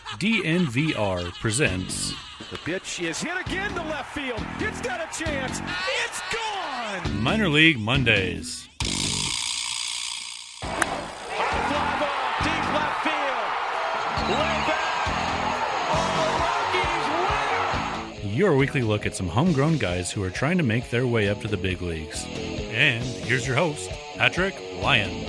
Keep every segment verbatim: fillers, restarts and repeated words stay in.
D N V R presents... The pitch is hit again to left field. It's got a chance. It's gone! Minor League Mondays. Fly ball, deep left field. Way back. Oh, Rockies win! Your weekly look at some homegrown guys who are trying to make their way up to the big leagues. And here's your host, Patrick Lyons.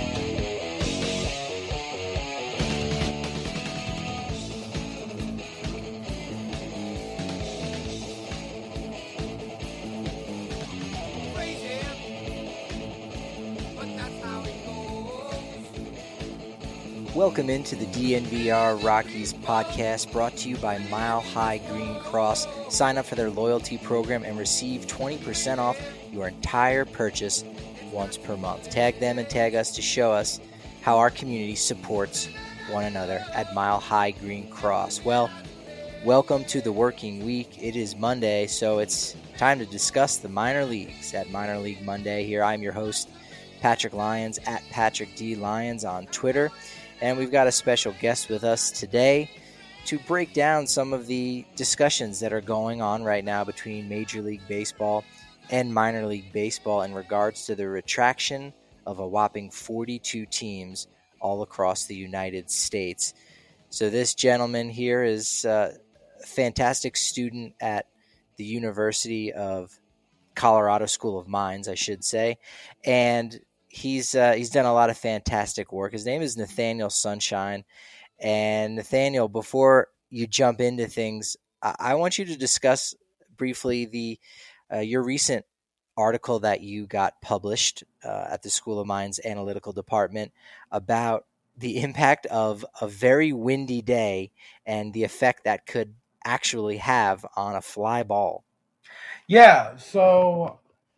Welcome into the D N V R Rockies podcast, brought to you by Mile High Green Cross. Sign up for their loyalty program and receive twenty percent off your entire purchase once per month. Tag them and tag us to show us how our community supports one another at Mile High Green Cross. Well, welcome to the working week. It is Monday, so it's time to discuss the minor leagues at Minor League Monday. Here, I'm your host, Patrick Lyons, at Patrick D. Lyons on Twitter. And we've got a special guest with us today to break down some of the discussions that are going on right now between Major League Baseball and Minor League Baseball in regards to the retraction of a whopping forty-two teams all across the United States. So this gentleman here is uh, a fantastic student at the University of Colorado School of Mines, I should say, and He's uh, he's done a lot of fantastic work. His name is Nathaniel Sunshine. And Nathaniel, before you jump into things, I, I want you to discuss briefly the uh, your recent article that you got published uh, at the School of Mines Analytical Department about the impact of a very windy day and the effect that could actually have on a fly ball. Yeah, so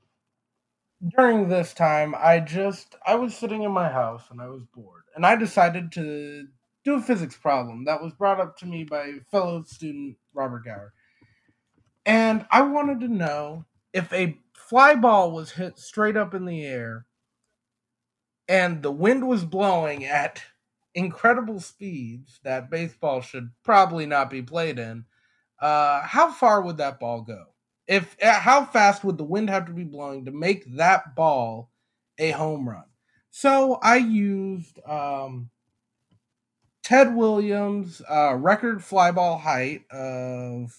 during this time, I just, I was sitting in my house and I was bored. And I decided to do a physics problem that was brought up to me by fellow student Robert Gower. And I wanted to know if a fly ball was hit straight up in the air and the wind was blowing at incredible speeds that baseball should probably not be played in, uh, how far would that ball go? If how fast would the wind have to be blowing to make that ball a home run? So I used um, Ted Williams' uh, record fly ball height of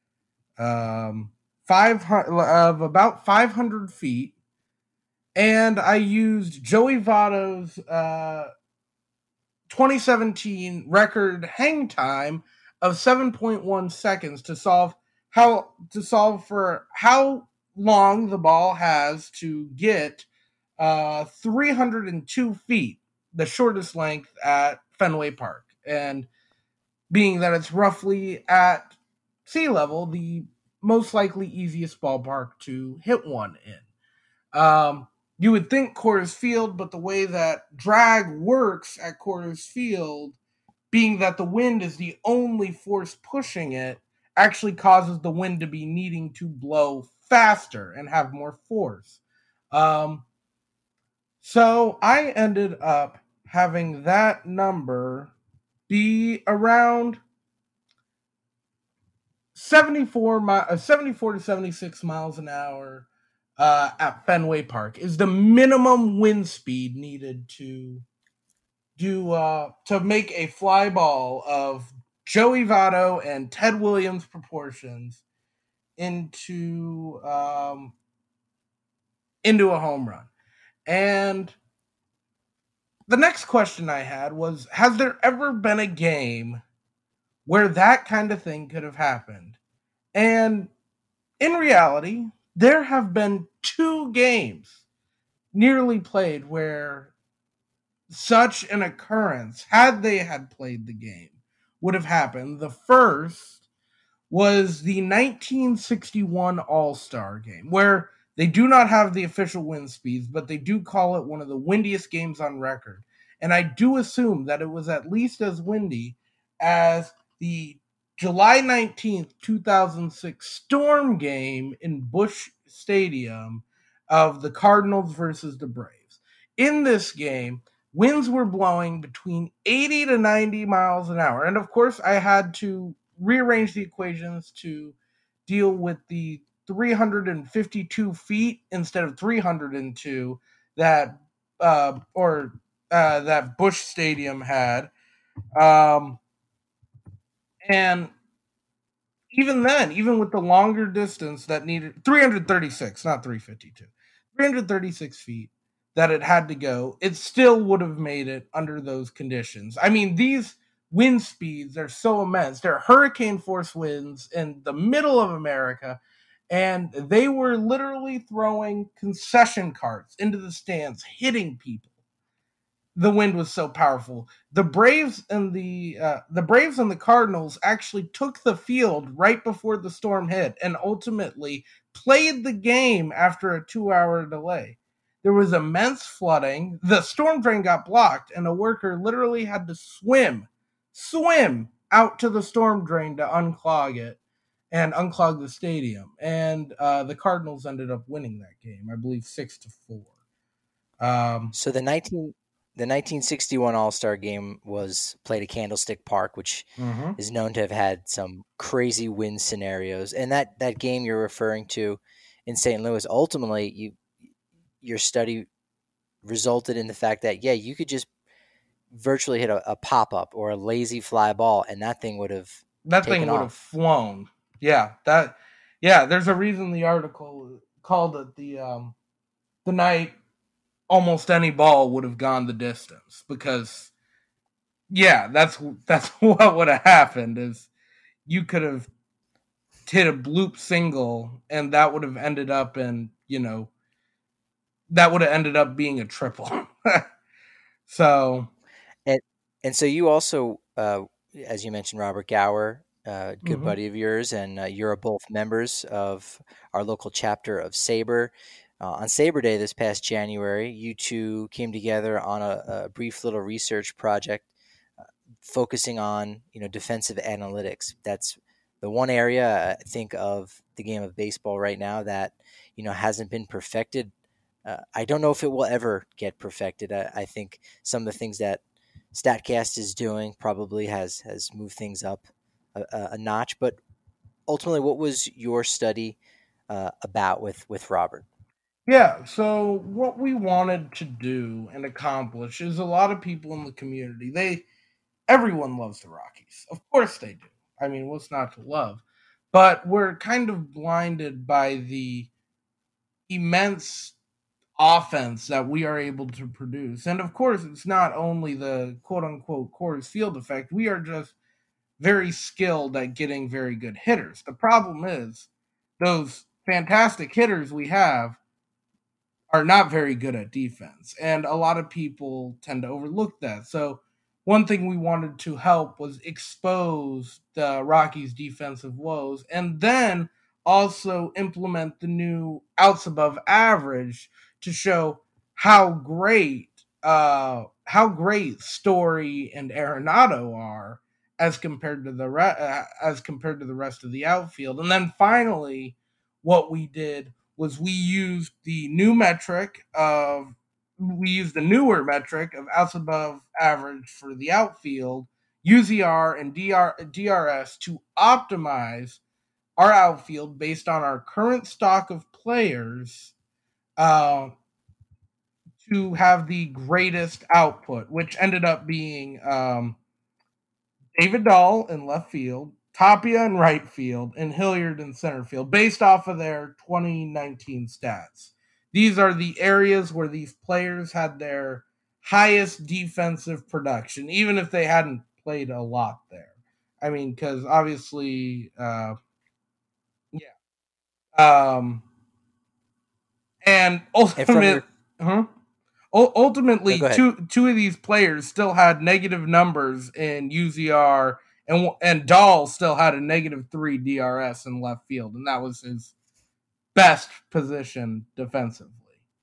um, five of about five hundred feet, and I used Joey Votto's uh, twenty seventeen record hang time of seven point one seconds to solve. How to solve for how long the ball has to get uh, three hundred two feet, the shortest length at Fenway Park. And being that it's roughly at sea level, the most likely easiest ballpark to hit one in. Um, you would think Coors Field, but the way that drag works at Coors Field, being that the wind is the only force pushing it, actually causes the wind to be needing to blow faster and have more force. Um, so I ended up having that number be around seventy-four, mi- uh, seventy-four to seventy-six miles an hour uh, at Fenway Park is the minimum wind speed needed to do uh, to make a fly ball of Joey Votto and Ted Williams proportions into um, into a home run. And the next question I had was, has there ever been a game where that kind of thing could have happened? And in reality, there have been two games nearly played where such an occurrence, had they had played the game, would have happened. The first was the nineteen sixty-one All-Star game, where they do not have the official wind speeds, but they do call it one of the windiest games on record. And I do assume that it was at least as windy as the July nineteenth, two thousand six Storm game in Busch Stadium of the Cardinals versus the Braves. In this game, winds were blowing between eighty to ninety miles an hour. And of course, I had to rearrange the equations to deal with the three hundred fifty-two feet instead of three hundred two that uh, or uh, that Busch Stadium had. Um, and even then, even with the longer distance that needed three hundred thirty-six, not three hundred fifty-two, three hundred thirty-six feet that it had to go, it still would have made it under those conditions. I mean, these wind speeds are so immense. They're hurricane force winds in the middle of America, and they were literally throwing concession carts into the stands, hitting people. The wind was so powerful. The Braves and the uh, the Braves and the Cardinals actually took the field right before the storm hit and ultimately played the game after a two-hour delay. There was immense flooding. The storm drain got blocked, and a worker literally had to swim, swim out to the storm drain to unclog it and unclog the stadium. And uh, the Cardinals ended up winning that game, I believe, six to four. Um, So the nineteen the nineteen sixty-one All-Star game was played at Candlestick Park, which mhm. is known to have had some crazy wind scenarios. And that, that game you're referring to in Saint Louis, ultimately, you your study resulted in the fact that, yeah, you could just virtually hit a, a pop-up or a lazy fly ball, and that thing would have That taken thing would have off. flown. Yeah, that. Yeah, there's a reason the article called it the um, the night almost any ball would have gone the distance, because yeah, that's that's what would have happened. Is you could have hit a bloop single, and that would have ended up in, you know, that would have ended up being a triple. So And and so you also, uh, as you mentioned, Robert Gower, uh, good mhm. buddy of yours, and uh, you're both members of our local chapter of Sabre. Uh, on Sabre Day this past January, you two came together on a, a brief little research project uh, focusing on, you know, defensive analytics. That's the one area I think of the game of baseball right now that, you know, hasn't been perfected. Uh, I don't know if it will ever get perfected. I, I think some of the things that Statcast is doing probably has has moved things up a, a, a notch. But ultimately, what was your study uh, about with with Robert? Yeah, so what we wanted to do and accomplish is, a lot of people in the community, they everyone loves the Rockies. Of course they do. I mean, what's not to love? But we're kind of blinded by the immense offense that we are able to produce. And of course, it's not only the quote unquote Coors Field effect. We are just very skilled at getting very good hitters. The problem is, those fantastic hitters we have are not very good at defense. And a lot of people tend to overlook that. So, one thing we wanted to help was expose the Rockies' defensive woes, and then also implement the new outs above average to show how great uh how great Story and Arenado are as compared to the re- uh, as compared to the rest of the outfield. And then finally, what we did was we used the new metric of we used the newer metric of outs above average for the outfield, U Z R and D R, D R S, to optimize our outfield based on our current stock of players, uh, to have the greatest output, which ended up being um, David Dahl in left field, Tapia in right field, and Hilliard in center field, based off of their twenty nineteen stats. These are the areas where these players had their highest defensive production, even if they hadn't played a lot there. I mean, because obviously, uh, yeah. Um, and And from ultimate, your huh? no, Ultimately, go ahead. two two of these players still had negative numbers in U Z R, and and Dahl still had a negative three D R S in left field, and that was his best position defensively.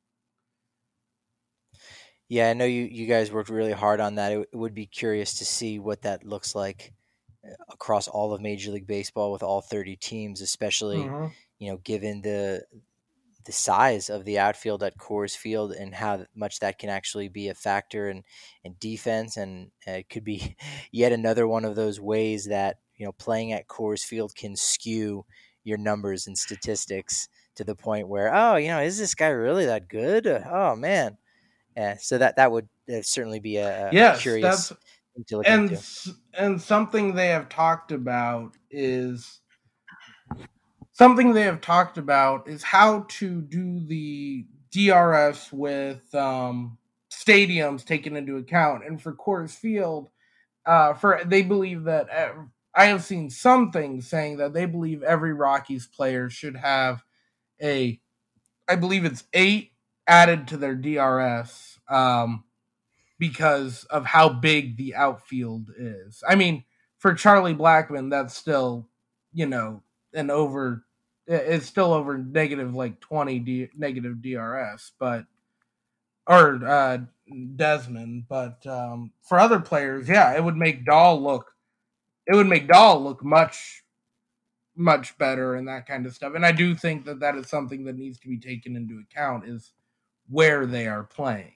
Yeah, I know you you guys worked really hard on that. It, it would be curious to see what that looks like uh, across all of Major League Baseball with all thirty teams, especially, Mm-hmm. you know, given the the size of the outfield at Coors Field and how much that can actually be a factor in, in defense. And uh, it could be yet another one of those ways that, you know, playing at Coors Field can skew your numbers and statistics to the point where, oh, you know, is this guy really that good? Uh, oh, man. Yeah, so that, that would uh, certainly be a, a Yes, curious that's thing to look and into. and something they have talked about is something they have talked about is how to do the D R S with um, stadiums taken into account. And for Coors Field, uh, for they believe that uh, I have seen some things saying that they believe every Rockies player should have a, I believe it's eight added to their D R S um, because of how big the outfield is. I mean, for Charlie Blackmon, that's still, you know, an over. It's still over negative like twenty D, negative D R S, but or uh, Desmond. But um, for other players, yeah, it would make Dahl look. It would make Dahl look much much better and that kind of stuff. And I do think that that is something that needs to be taken into account is where they are playing.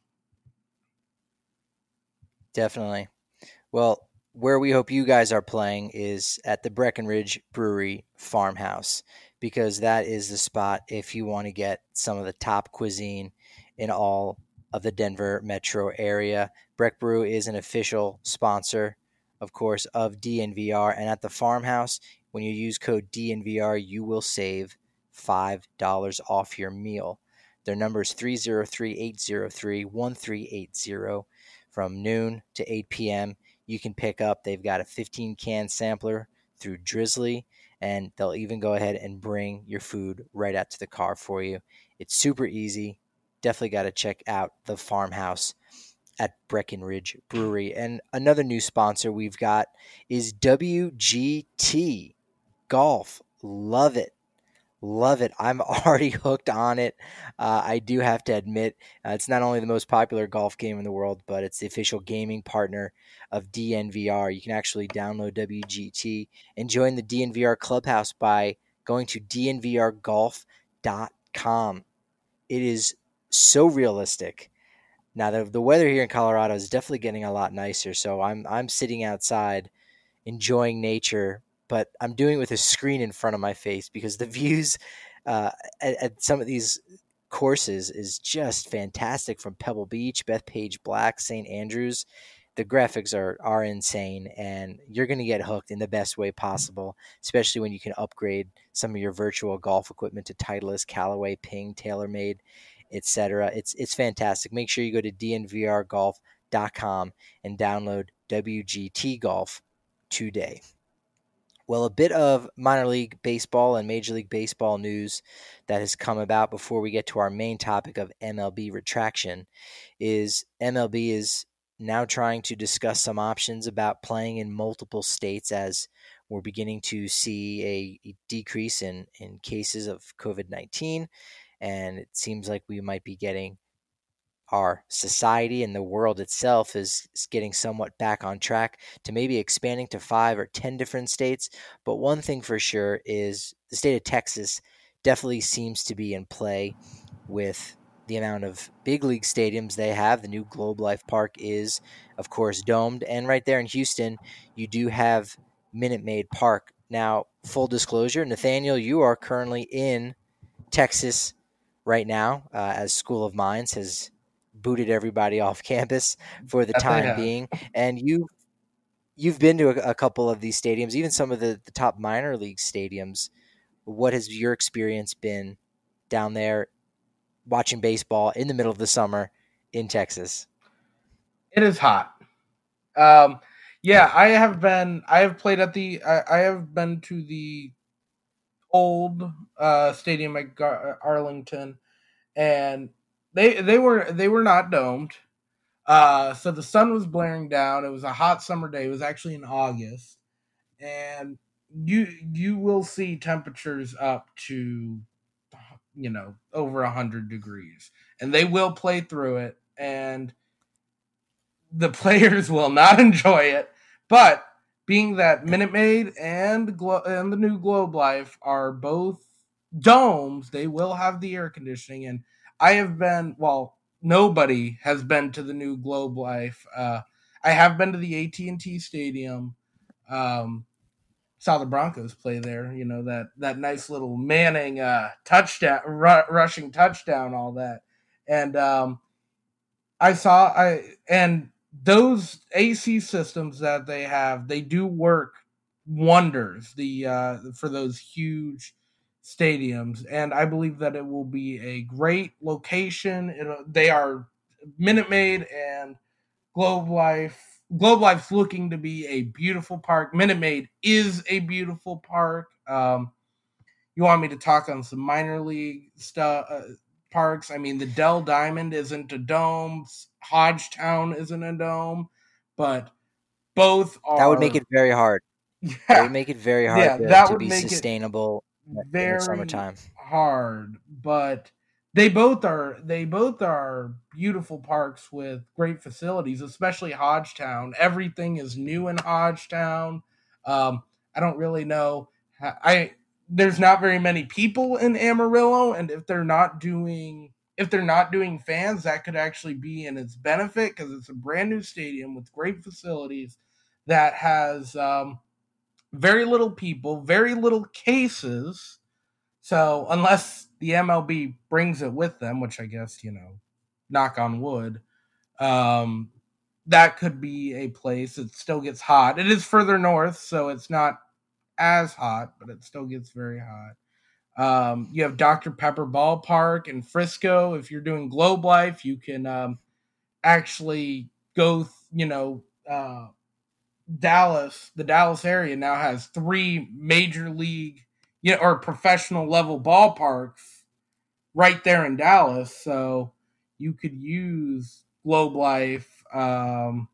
Definitely. Well, where we hope you guys are playing is at the Breckenridge Brewery Farmhouse, because that is the spot if you want to get some of the top cuisine in all of the Denver metro area. Breck Brew is an official sponsor, of course, of D N V R. And at the Farmhouse, when you use code D N V R, you will save five dollars off your meal. Their number is three oh three, eight oh three, one three eight zero. From noon to eight p.m. You can pick up. They've got a fifteen can sampler through Drizzly, and they'll even go ahead and bring your food right out to the car for you. It's super easy. Definitely got to check out the Farmhouse at Breckenridge Brewery. And another new sponsor we've got is W G T Golf. Love it. Love it. I'm already hooked on it. Uh, I do have to admit, uh, it's not only the most popular golf game in the world, but it's the official gaming partner of D N V R. You can actually download W G T and join the D N V R Clubhouse by going to D N V R golf dot com. It is so realistic. Now, the, the weather here in Colorado is definitely getting a lot nicer, so I'm I'm sitting outside enjoying nature, but I'm doing it with a screen in front of my face because the views uh, at, at some of these courses is just fantastic, from Pebble Beach, Bethpage Black, Saint Andrews. The graphics are are insane, and you're going to get hooked in the best way possible, especially when you can upgrade some of your virtual golf equipment to Titleist, Callaway, Ping, TaylorMade, et cetera. It's it's fantastic. Make sure you go to D N V R golf dot com and download W G T Golf today. Well, a bit of minor league baseball and Major League Baseball news that has come about before we get to our main topic of M L B retraction is M L B is now trying to discuss some options about playing in multiple states, as we're beginning to see a decrease in, in cases of COVID nineteen. And it seems like we might be getting our society and the world itself is, is getting somewhat back on track to maybe expanding to five or ten different states. But one thing for sure is the state of Texas definitely seems to be in play with the amount of big league stadiums they have. The new Globe Life Park is, of course, domed. And right there in Houston, you do have Minute Maid Park. Now, full disclosure, Nathaniel, you are currently in Texas right now, uh, as School of Mines has booted everybody off campus for the time being. And you, you've been to a, a couple of these stadiums, even some of the, the top minor league stadiums. What has your experience been down there watching baseball in the middle of the summer in Texas? It is hot. Um, yeah, I have been, I have played at the, I, I have been to the old uh, stadium at Gar- Arlington, and they they were they were not domed. Uh, so the sun was blaring down. It was a hot summer day. It was actually in August, and you you will see temperatures up to, you know, over a hundred degrees, and they will play through it, and the players will not enjoy it. But being that Minute Maid and Glo- and the new Globe Life are both domes, they will have the air conditioning. And I have been, well, nobody has been to the new Globe Life. Uh, I have been to the A T and T Stadium. Um, saw the Broncos play there. You know, that that nice little Manning uh, touchdown, ru- rushing touchdown, all that. And um, I saw I and those A C systems that they have, they do work wonders. The uh, for those huge stadiums, and I believe that it will be a great location. It, they are Minute Maid and Globe Life. Globe Life's looking to be a beautiful park. Minute Maid is a beautiful park. Um, you want me to talk on some minor league stuff? Uh, parks. I mean, the Dell Diamond isn't a dome. Hodgetown isn't a dome, but both That would make are. it very hard. It would Yeah, make it very hard yeah, to, that to would be make it sustainable in the very summertime. hard, but they both are they both are beautiful parks with great facilities, especially Hodgetown. Everything is new in Hodgetown. Um, I don't really know. I There's not very many people in Amarillo, and if they're not doing if they're not doing fans, that could actually be in its benefit because it's a brand new stadium with great facilities that has um, very little people, very little cases. So unless the M L B brings it with them, which I guess, you know, knock on wood, um, that could be a place. It still gets hot. It is further north, so it's not as hot, but it still gets very hot. Um, you have Doctor Pepper Ballpark in Frisco. If you're doing Globe Life, you can um, actually go, you know, uh, Dallas, the Dallas area now has three major league, you know, or professional level ballparks right there in Dallas. So you could use Globe Life. Um,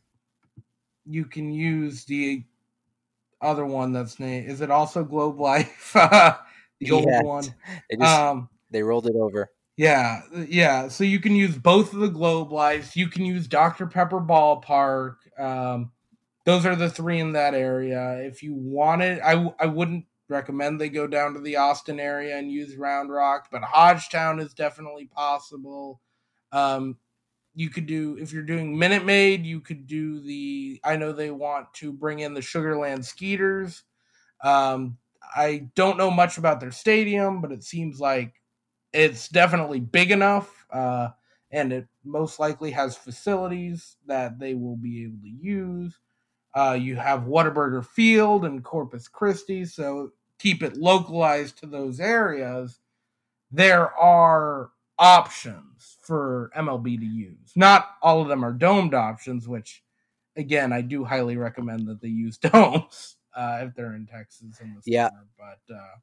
you can use the other one that's named. Is it also Globe Life? The old Yes, one. they just Um, they rolled it over. yeah, yeah. So you can use both of the Globe Lives. You can use Doctor Pepper Ballpark. Um, those are the three in that area. If you wanted, I I wouldn't recommend they go down to the Austin area and use Round Rock, but Hodgetown is definitely possible. Um, you could do if you're doing Minute Maid, you could do the. I know they want to bring in the Sugarland Skeeters. Um, I don't know much about their stadium, but it seems like it's definitely big enough, uh, and it most likely has facilities that they will be able to use. Uh, you have Whataburger Field and Corpus Christi, so keep it localized to those areas. There are options for M L B to use. Not all of them are domed options, which, again, I do highly recommend that they use domes uh, if they're in Texas in the Yeah, summer. But uh,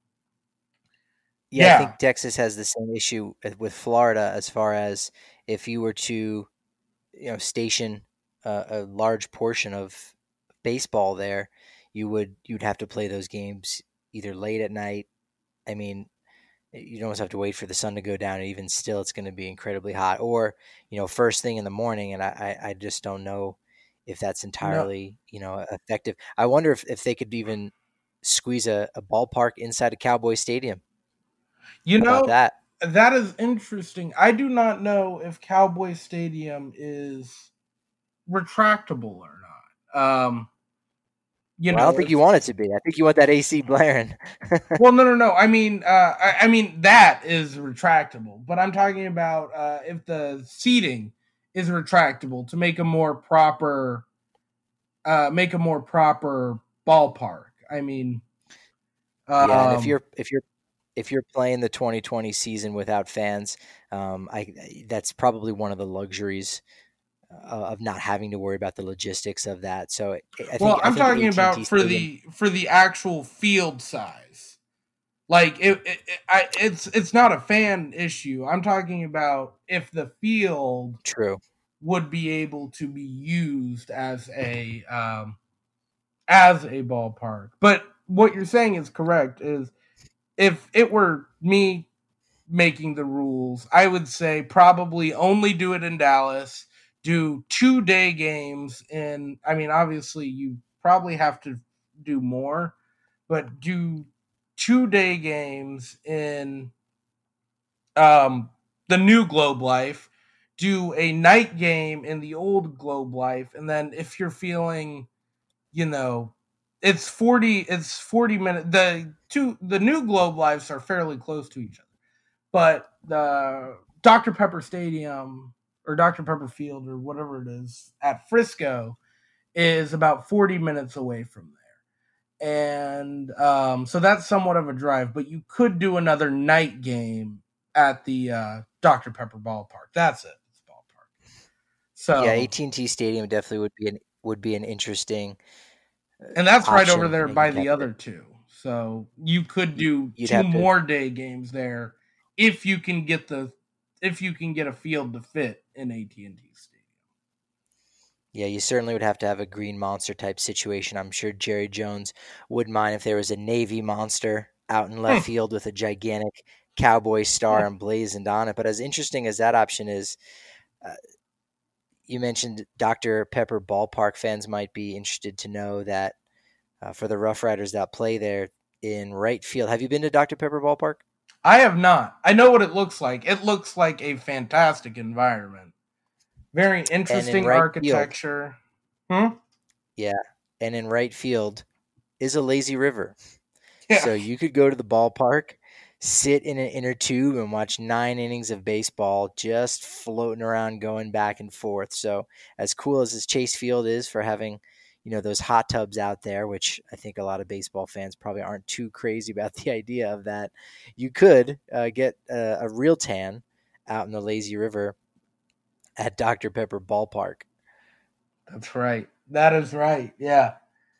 yeah. I yeah, think Texas has the same issue with Florida as far as if you were to, you know, station a, a large portion of baseball there, you would you'd have to play those games either late at night. I mean, you'd almost have to wait for the sun to go down, and even still, it's going to be incredibly hot. Or, you know, first thing in the morning, and I, I, I just don't know if that's no, entirely, you know, effective. I wonder if, if they could even squeeze a, a ballpark inside a Cowboy Stadium. you How about know, that? that is interesting. I do not know if Cowboy Stadium is retractable or not. Um, you Well, I don't know, think you if want it to be. I think you want that A C blaring. well, no, no, no. I mean, uh, I, I mean that is retractable, but I'm talking about uh, if the seating is retractable to make a more proper, uh, make a more proper ballpark. I mean, Yeah, and if um, you're if you're if you're playing the twenty twenty season without fans, um, I that's probably one of the luxuries uh, of not having to worry about the logistics of that. So I think well, I I'm think talking A T and T about for Stadium. the for the actual field size. Like it, it, it I, it's it's not a fan issue. I'm talking about if the field True. would be able to be used as a um, as a ballpark. But what you're saying is correct. Is if it were me making the rules, I would say probably only do it in Dallas. Do two day games in. I mean, obviously, you probably have to do more, but do two day games in um, the new Globe Life, do a night game in the old Globe Life, and then if you're feeling, you know, it's forty it's forty minutes. The two the new Globe Lives are fairly close to each other, but the Doctor Pepper Stadium or Doctor Pepper Field or whatever it is at Frisco is about forty minutes away from there. And um, so that's somewhat of a drive, but you could do another night game at the uh, Doctor Pepper ballpark. That's it. It's ballpark. So yeah, A T and T Stadium definitely would be an would be an interesting, and that's right over option. there You know, by you'd the have to- other two. So you could do you'd two have to more day games there if you can get the if you can get a field to fit in A T and T Stadium. Yeah, you certainly would have to have a green monster type situation. I'm sure Jerry Jones wouldn't mind if there was a Navy monster out in left field with a gigantic cowboy star emblazoned on it. But as interesting as that option is, uh, you mentioned Doctor Pepper ballpark fans might be interested to know that uh, for the Rough Riders that play there in right field. Have you been to Doctor Pepper ballpark? I have not. I know what it looks like. It looks like a fantastic environment. Very interesting right architecture. Field, hmm? Yeah. And in right field is a lazy river. Yeah. So you could go to the ballpark, sit in an inner tube, and watch nine innings of baseball just floating around, going back and forth. So as cool as this Chase Field is for having, you know, those hot tubs out there, which I think a lot of baseball fans probably aren't too crazy about the idea of that, you could uh, get a, a real tan out in the lazy river at Doctor Pepper ballpark. That's right. That is right. Yeah.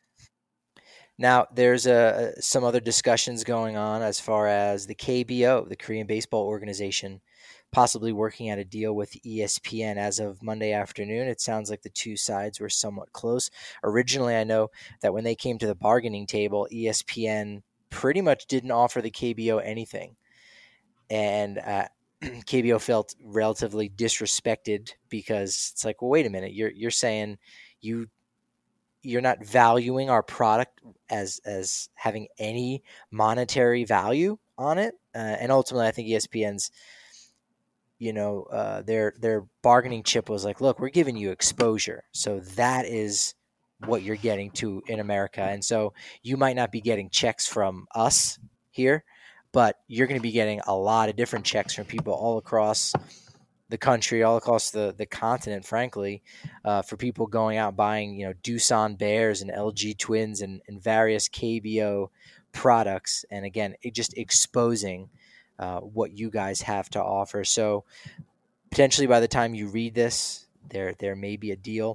Now, there's uh, some other discussions going on as far as the K B O, the Korean Baseball Organization, possibly working out a deal with E S P N as of Monday afternoon. It sounds like the two sides were somewhat close. Originally, I know that when they came to the bargaining table, E S P N pretty much didn't offer the K B O anything. And uh, K B O felt relatively disrespected because it's like, well, wait a minute, you're you're saying you you're not valuing our product as as having any monetary value on it, uh, and ultimately, I think E S P N's, you know, uh, their their bargaining chip was like, look, we're giving you exposure, so that is what you're getting to in America, and so you might not be getting checks from us here, but you're going to be getting a lot of different checks from people all across the country, all across the, the continent, frankly, uh, for people going out buying, you know, Doosan Bears and L G Twins and, and various K B O products. And again, it just exposing uh, what you guys have to offer. So potentially by the time you read this, there there may be a deal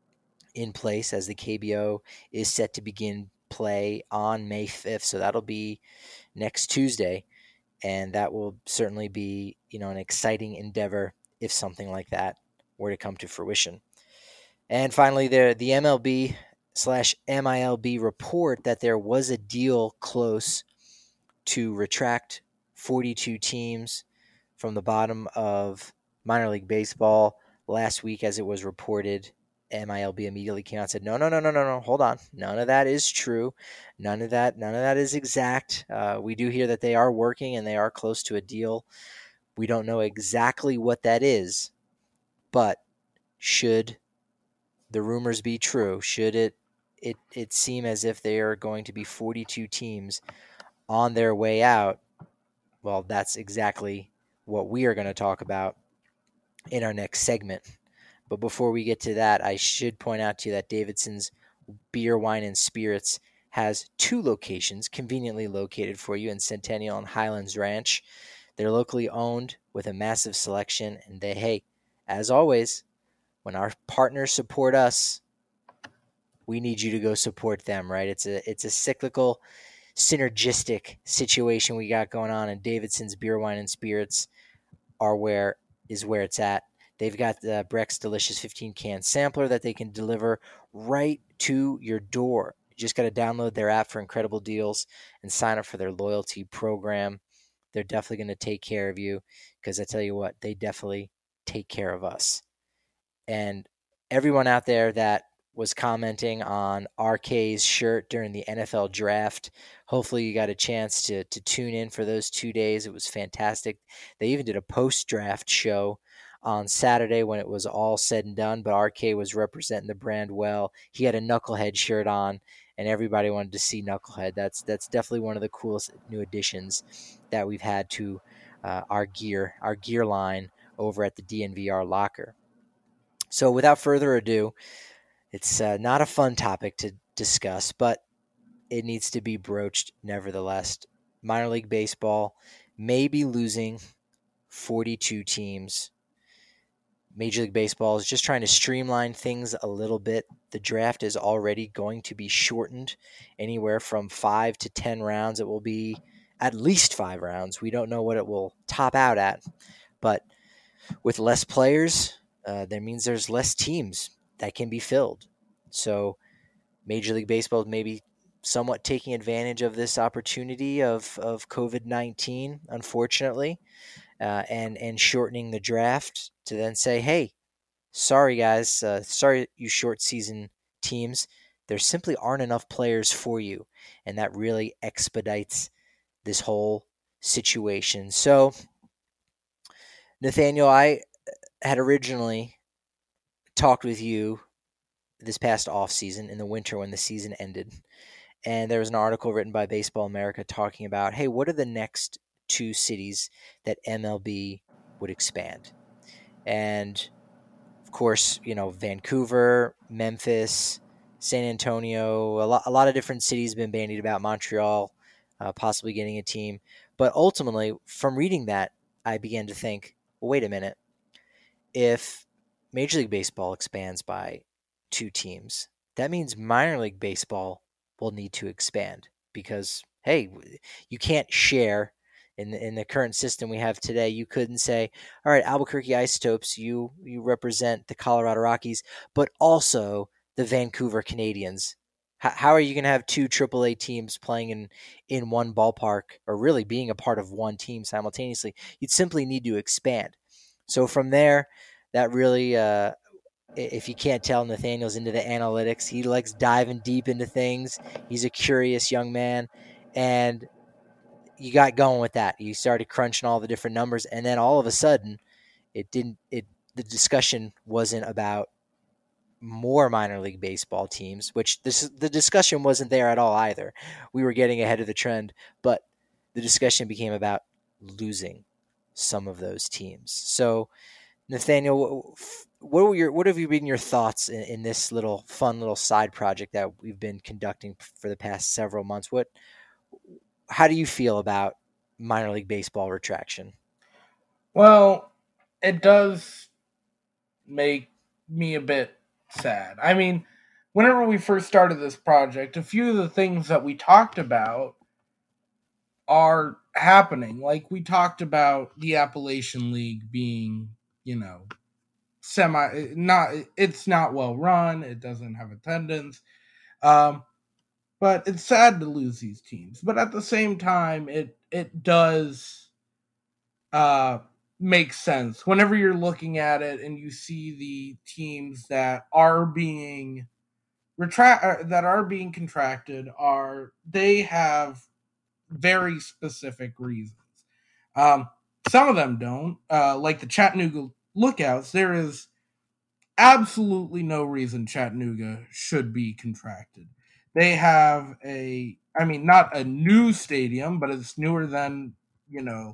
in place as the K B O is set to begin play on May fifth. So that'll be next Tuesday. And that will certainly be, you know, an exciting endeavor if something like that were to come to fruition. And finally, there the M L B slash M I L B report that there was a deal close to retract forty-two teams from the bottom of minor league baseball. Last week, as it was reported, M I L B immediately came out and said, no, no, no, no, no, no, hold on. None of that is true. None of that, none of that is exact. Uh, we do hear that they are working and they are close to a deal. We don't know exactly what that is, but should the rumors be true, should it it it seem as if they are going to be forty-two teams on their way out, well, that's exactly what we are going to talk about in our next segment. But before we get to that, I should point out to you that Davidson's Beer, Wine, and Spirits has two locations conveniently located for you in Centennial and Highlands Ranch. They're locally owned with a massive selection, and they, hey, as always, when our partners support us, we need you to go support them, right? It's a it's a cyclical, synergistic situation we got going on, and Davidson's Beer, Wine, and Spirits are where is where it's at. They've got the Breck's Delicious fifteen can sampler that they can deliver right to your door. You just got to download their app for incredible deals and sign up for their loyalty program. They're definitely going to take care of you because I tell you what, they definitely take care of us. And everyone out there that was commenting on R K's shirt during the N F L draft. Hopefully you got a chance to to tune in for those two days. It was fantastic. They even did a post-draft show on Saturday when it was all said and done, but R K was representing the brand well. He had a Knucklehead shirt on, and everybody wanted to see Knucklehead. That's that's definitely one of the coolest new additions that we've had to uh, our gear, our gear line over at the D N V R locker. So without further ado, it's uh, not a fun topic to discuss, but it needs to be broached nevertheless. Minor League Baseball may be losing forty-two teams. Major League Baseball is just trying to streamline things a little bit. The draft is already going to be shortened anywhere from five to ten rounds. It will be at least five rounds. We don't know what it will top out at, but with less players, uh, that means there's less teams that can be filled. So Major League Baseball may be somewhat taking advantage of this opportunity of, of COVID nineteen, unfortunately, uh, and, and shortening the draft to then say, hey, sorry, guys, uh, sorry, you short season teams, there simply aren't enough players for you. And that really expedites this whole situation. So, Nathaniel, I had originally talked with you this past off season in the winter when the season ended, and there was an article written by Baseball America talking about, hey, what are the next two cities that M L B would expand? And of course, you know, Vancouver, Memphis, San Antonio, a lot, a lot of different cities have been bandied about, Montreal uh, possibly getting a team. But ultimately, from reading that, I began to think, well, wait a minute. If Major League Baseball expands by two teams, that means minor league baseball will need to expand because, hey, you can't share in the, in the current system we have today. You couldn't say, all right, Albuquerque Isotopes, you, you represent the Colorado Rockies, but also the Vancouver Canadians. How, how are you going to have two triple A teams playing in, in one ballpark or really being a part of one team simultaneously? You'd simply need to expand. So from there, that really, uh, if you can't tell, Nathaniel's into the analytics. He likes diving deep into things. He's a curious young man. And you got going with that. You started crunching all the different numbers. And then all of a sudden, it didn't, it, the discussion wasn't about more minor league baseball teams, which this, the discussion wasn't there at all either. We were getting ahead of the trend, but the discussion became about losing some of those teams. So, Nathaniel, what were your what have you been your thoughts in, in this little fun little side project that we've been conducting for the past several months? What, how do you feel about minor league baseball retraction? Well, it does make me a bit sad. I mean, whenever we first started this project, a few of the things that we talked about are happening. Like we talked about the Appalachian League being, you know, semi not it's not well run, it doesn't have attendance. Um but it's sad to lose these teams. But at the same time, it it does uh make sense whenever you're looking at it and you see the teams that are being retract that are being contracted are they have very specific reasons. Um, some of them don't, uh, like the Chattanooga Lookouts. There is absolutely no reason Chattanooga should be contracted. They have a, I mean, not a new stadium, but it's newer than, you know,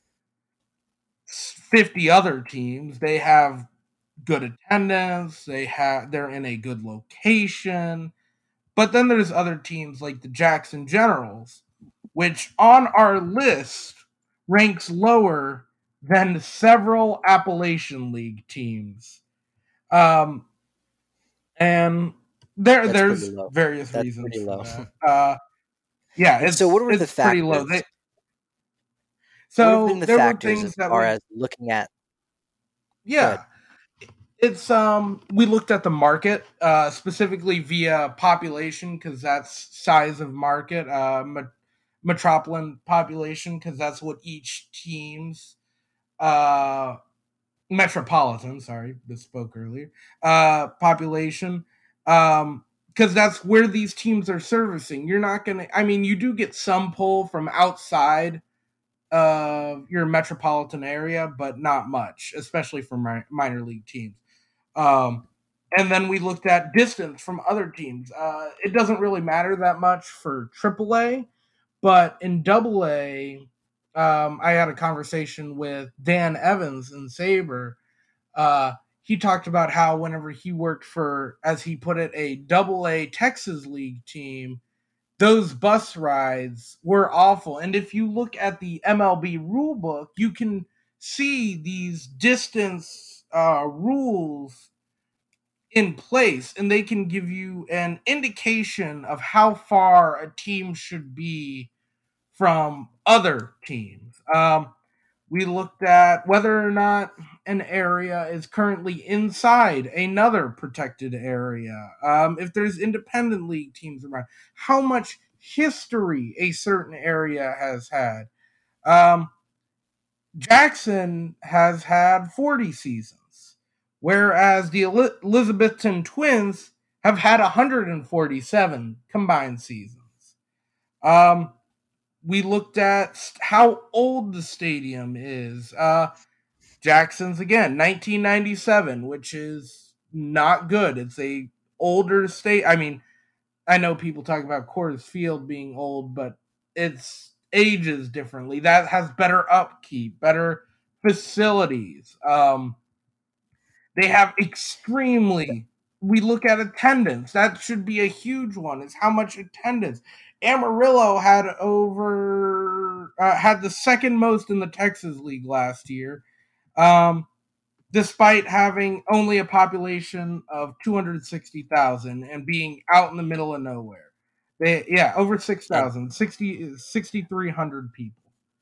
fifty other teams. They have good attendance. They have, they're in a good location. But then there's other teams like the Jackson Generals, which on our list ranks lower than several Appalachian League teams. Um, and there, That's there's pretty low. various That's reasons pretty for low. that. Uh, yeah, And it's so what were the it's pretty low. factors? They, What have so been the there were factors things as that far we, as looking at? Go ahead. yeah, it's um we looked at the market uh specifically via population because that's size of market, uh met- metropolitan population because that's what each team's uh metropolitan sorry misspoke earlier uh population Um, because that's where these teams are servicing. You're not going to, I mean, you do get some pull from outside of your metropolitan area, but not much, especially for mi- minor league teams. Um, and then we looked at distance from other teams. Uh, it doesn't really matter that much for triple A, but in double A, um, I had a conversation with Dan Evans in Sabre. Uh, he talked about how whenever he worked for, as he put it, a double A Texas League team, those bus rides were awful. And if you look at the M L B rule book, you can see these distance uh, rules in place, and they can give you an indication of how far a team should be from other teams. Um, we looked at whether or not an area is currently inside another protected area. Um, if there's independent league teams around, how much history a certain area has had. Um, Jackson has had forty seasons, whereas the Elizabethton Twins have had one hundred forty-seven combined seasons. Um, we looked at how old the stadium is. Uh, Jackson's again, nineteen ninety-seven, which is not good. It's a older state. I mean, I know people talk about Coors Field being old, but it's ages differently. That has better upkeep, better facilities. Um, they have extremely. We look at attendance. That should be a huge one. Is how much attendance. Amarillo had over uh, had the second most in the Texas League last year, um, despite having only a population of two hundred sixty thousand and being out in the middle of nowhere. They yeah over six thousand, sixty sixty-three hundred people.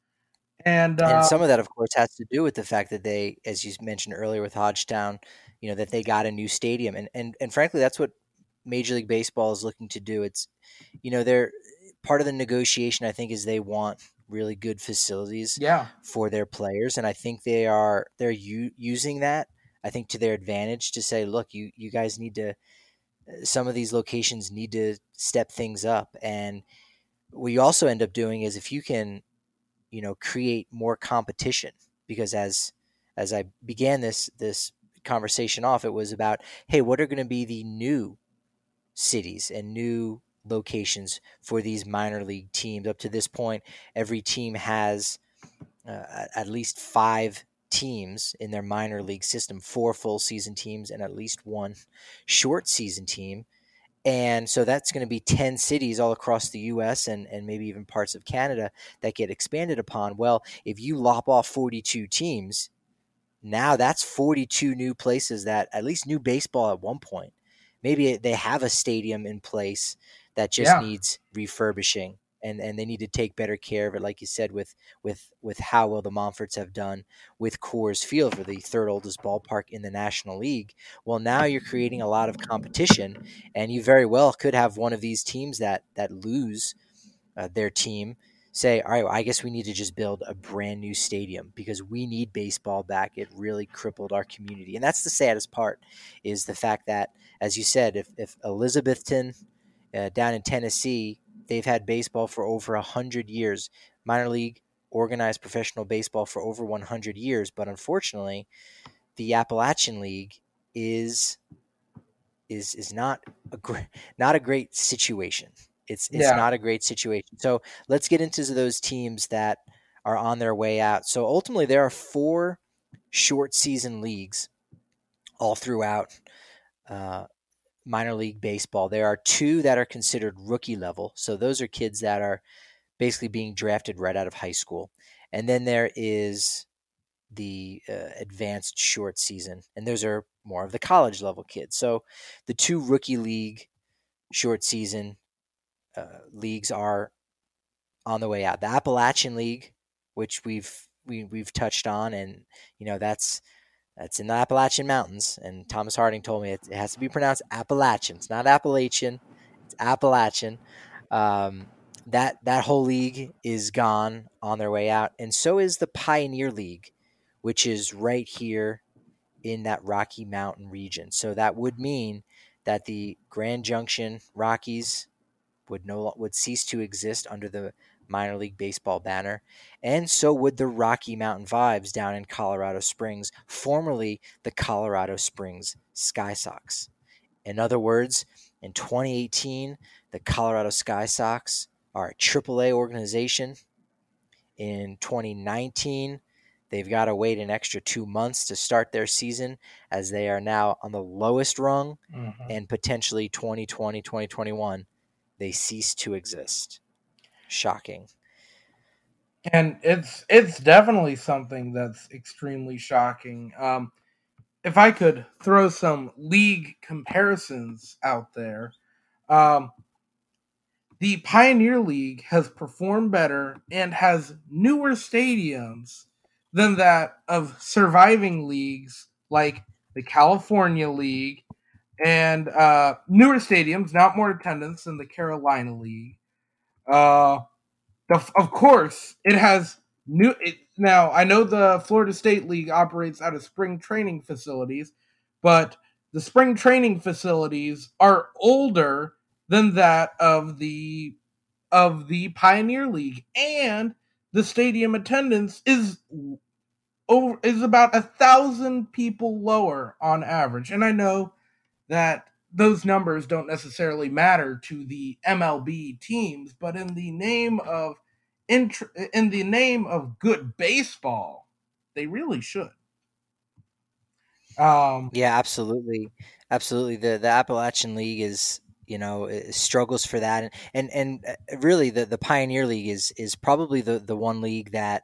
And, uh, and some of that, of course, has to do with the fact that they, as you mentioned earlier with Hodgetown, you know, that they got a new stadium. And, and, and frankly, that's what Major League Baseball is looking to do. It's, you know, they're part of the negotiation, I think, is they want really good facilities yeah. for their players. And I think they are, they're u- using that, I think, to their advantage to say, look, you, you guys need to, some of these locations need to step things up. And what you also end up doing is if you can, you know, create more competition, because as as I began this this conversation off, it was about, hey, what are going to be the new cities and new locations for these minor league teams? Up to this point, every team has uh, at least five teams in their minor league system, four full season teams and at least one short season team. And so that's going to be ten cities all across the U S and, and maybe even parts of Canada that get expanded upon. Well, if you lop off forty-two teams, now that's forty-two new places that, at least new baseball at one point, maybe they have a stadium in place that just Yeah. needs refurbishing. And, and they need to take better care of it, like you said, with with with how well the Montforts have done with Coors Field, for the third oldest ballpark in the National League. Well, now you're creating a lot of competition, and you very well could have one of these teams that that lose uh, their team say, all right, well, I guess we need to just build a brand new stadium because we need baseball back. It really crippled our community. And that's the saddest part, is the fact that, as you said, if, if Elizabethton uh, down in Tennessee, they've had baseball for over one hundred years, minor league organized professional baseball for over one hundred years. But unfortunately, the Appalachian League is is is not a great, not a great situation. It's it's Yeah. not a great situation. So let's get into those teams that are on their way out. So ultimately, there are four short season leagues all throughout uh, minor league baseball. There are two that are considered rookie level. So those are kids that are basically being drafted right out of high school. And then there is the uh, advanced short season, and those are more of the college level kids. So the two rookie league short season uh, leagues are on the way out. The Appalachian League, which we've we, we've touched on, and you know that's that's in the Appalachian Mountains. And Thomas Harding told me it, it has to be pronounced Appalachian. It's not Appalachian; it's Appalachian. Um, that that whole league is gone, on their way out, and so is the Pioneer League, which is right here in that Rocky Mountain region. So that would mean that the Grand Junction Rockies would no would cease to exist under the minor league baseball banner, and so would the Rocky Mountain Vibes down in Colorado Springs, formerly the Colorado Springs Sky Sox. In other words, in twenty eighteen, the Colorado Sky Sox are a triple A organization. In twenty nineteen, they've got to wait an extra two months to start their season, as they are now on the lowest rung, mm-hmm. and potentially twenty twenty, twenty twenty-one, they cease to exist. Shocking. And it's it's definitely something that's extremely shocking. Um, if I could throw some league comparisons out there, um, the Pioneer League has performed better and has newer stadiums than that of surviving leagues like the California League, and uh, newer stadiums, not more attendance than the Carolina League. Uh, the, of course, it has new. It, now, I know the Florida State League operates out of spring training facilities, but the spring training facilities are older than that of the of the Pioneer League, and the stadium attendance is over is about a thousand people lower on average. And I know that those numbers don't necessarily matter to the M L B teams, but in the name of in, in the name of good baseball, they really should. Um, yeah, absolutely, absolutely. The the Appalachian League is, you know, struggles for that, and and, and really the, the Pioneer League is is probably the, the one league that,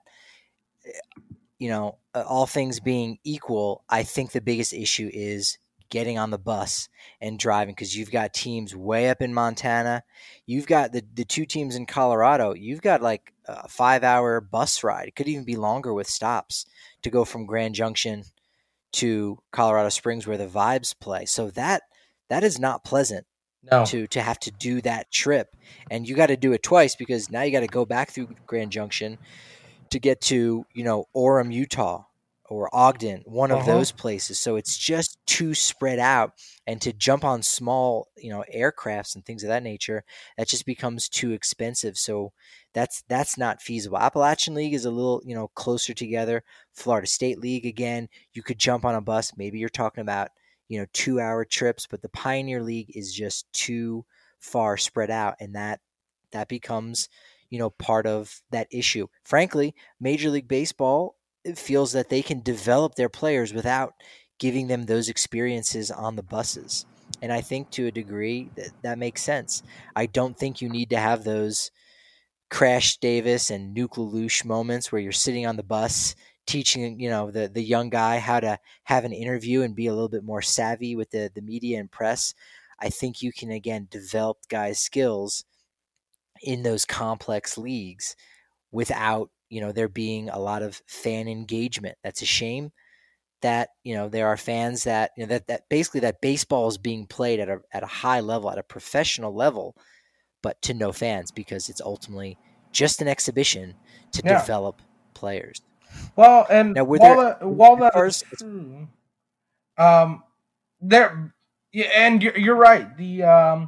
you know, all things being equal, I think the biggest issue is getting on the bus and driving, because you've got teams way up in Montana. You've got the, the two teams in Colorado. You've got like a five hour bus ride. It could even be longer with stops to go from Grand Junction to Colorado Springs where the Vibes play. So that that is not pleasant no. to to have to do that trip. And you got to do it twice, because now you got to go back through Grand Junction to get to, you know, Orem, Utah, or Ogden, one of uh-huh. those places. So it's just too spread out, and to jump on small, you know, aircrafts and things of that nature, that just becomes too expensive. So that's that's not feasible. Appalachian League is a little, you know, closer together. Florida State League, again, you could jump on a bus. Maybe you're talking about, you know, two hour trips, but the Pioneer League is just too far spread out, and that that becomes, you know, part of that issue. Frankly, Major League Baseball feels that they can develop their players without giving them those experiences on the buses. And I think to a degree that, that makes sense. I don't think you need to have those Crash Davis and Nuke LaLoosh moments where you're sitting on the bus teaching, you know, the, the young guy how to have an interview and be a little bit more savvy with the, the media and press. I think you can, again, develop guys' skills in those complex leagues without, you know, there being a lot of fan engagement. That's a shame that, you know, there are fans that, you know, that, that basically that baseball is being played at a, at a high level, at a professional level, but to no fans, because it's ultimately just an exhibition to yeah. develop players. Well, and now, while, there, that, while that is true, um, there, yeah, and you're, you're right. The, um,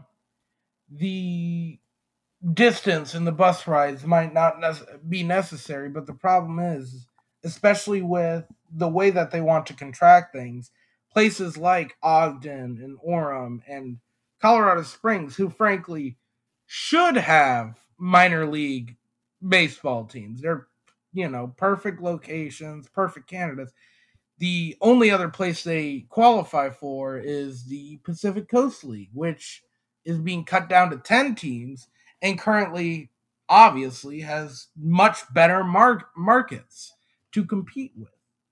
the, distance in the bus rides might not ne- be necessary, but the problem is, especially with the way that they want to contract things, places like Ogden and Orem and Colorado Springs, who frankly should have minor league baseball teams. They're, you know, perfect locations, perfect candidates. The only other place they qualify for is the Pacific Coast League, which is being cut down to ten teams, and currently, obviously, has much better mar- markets to compete with.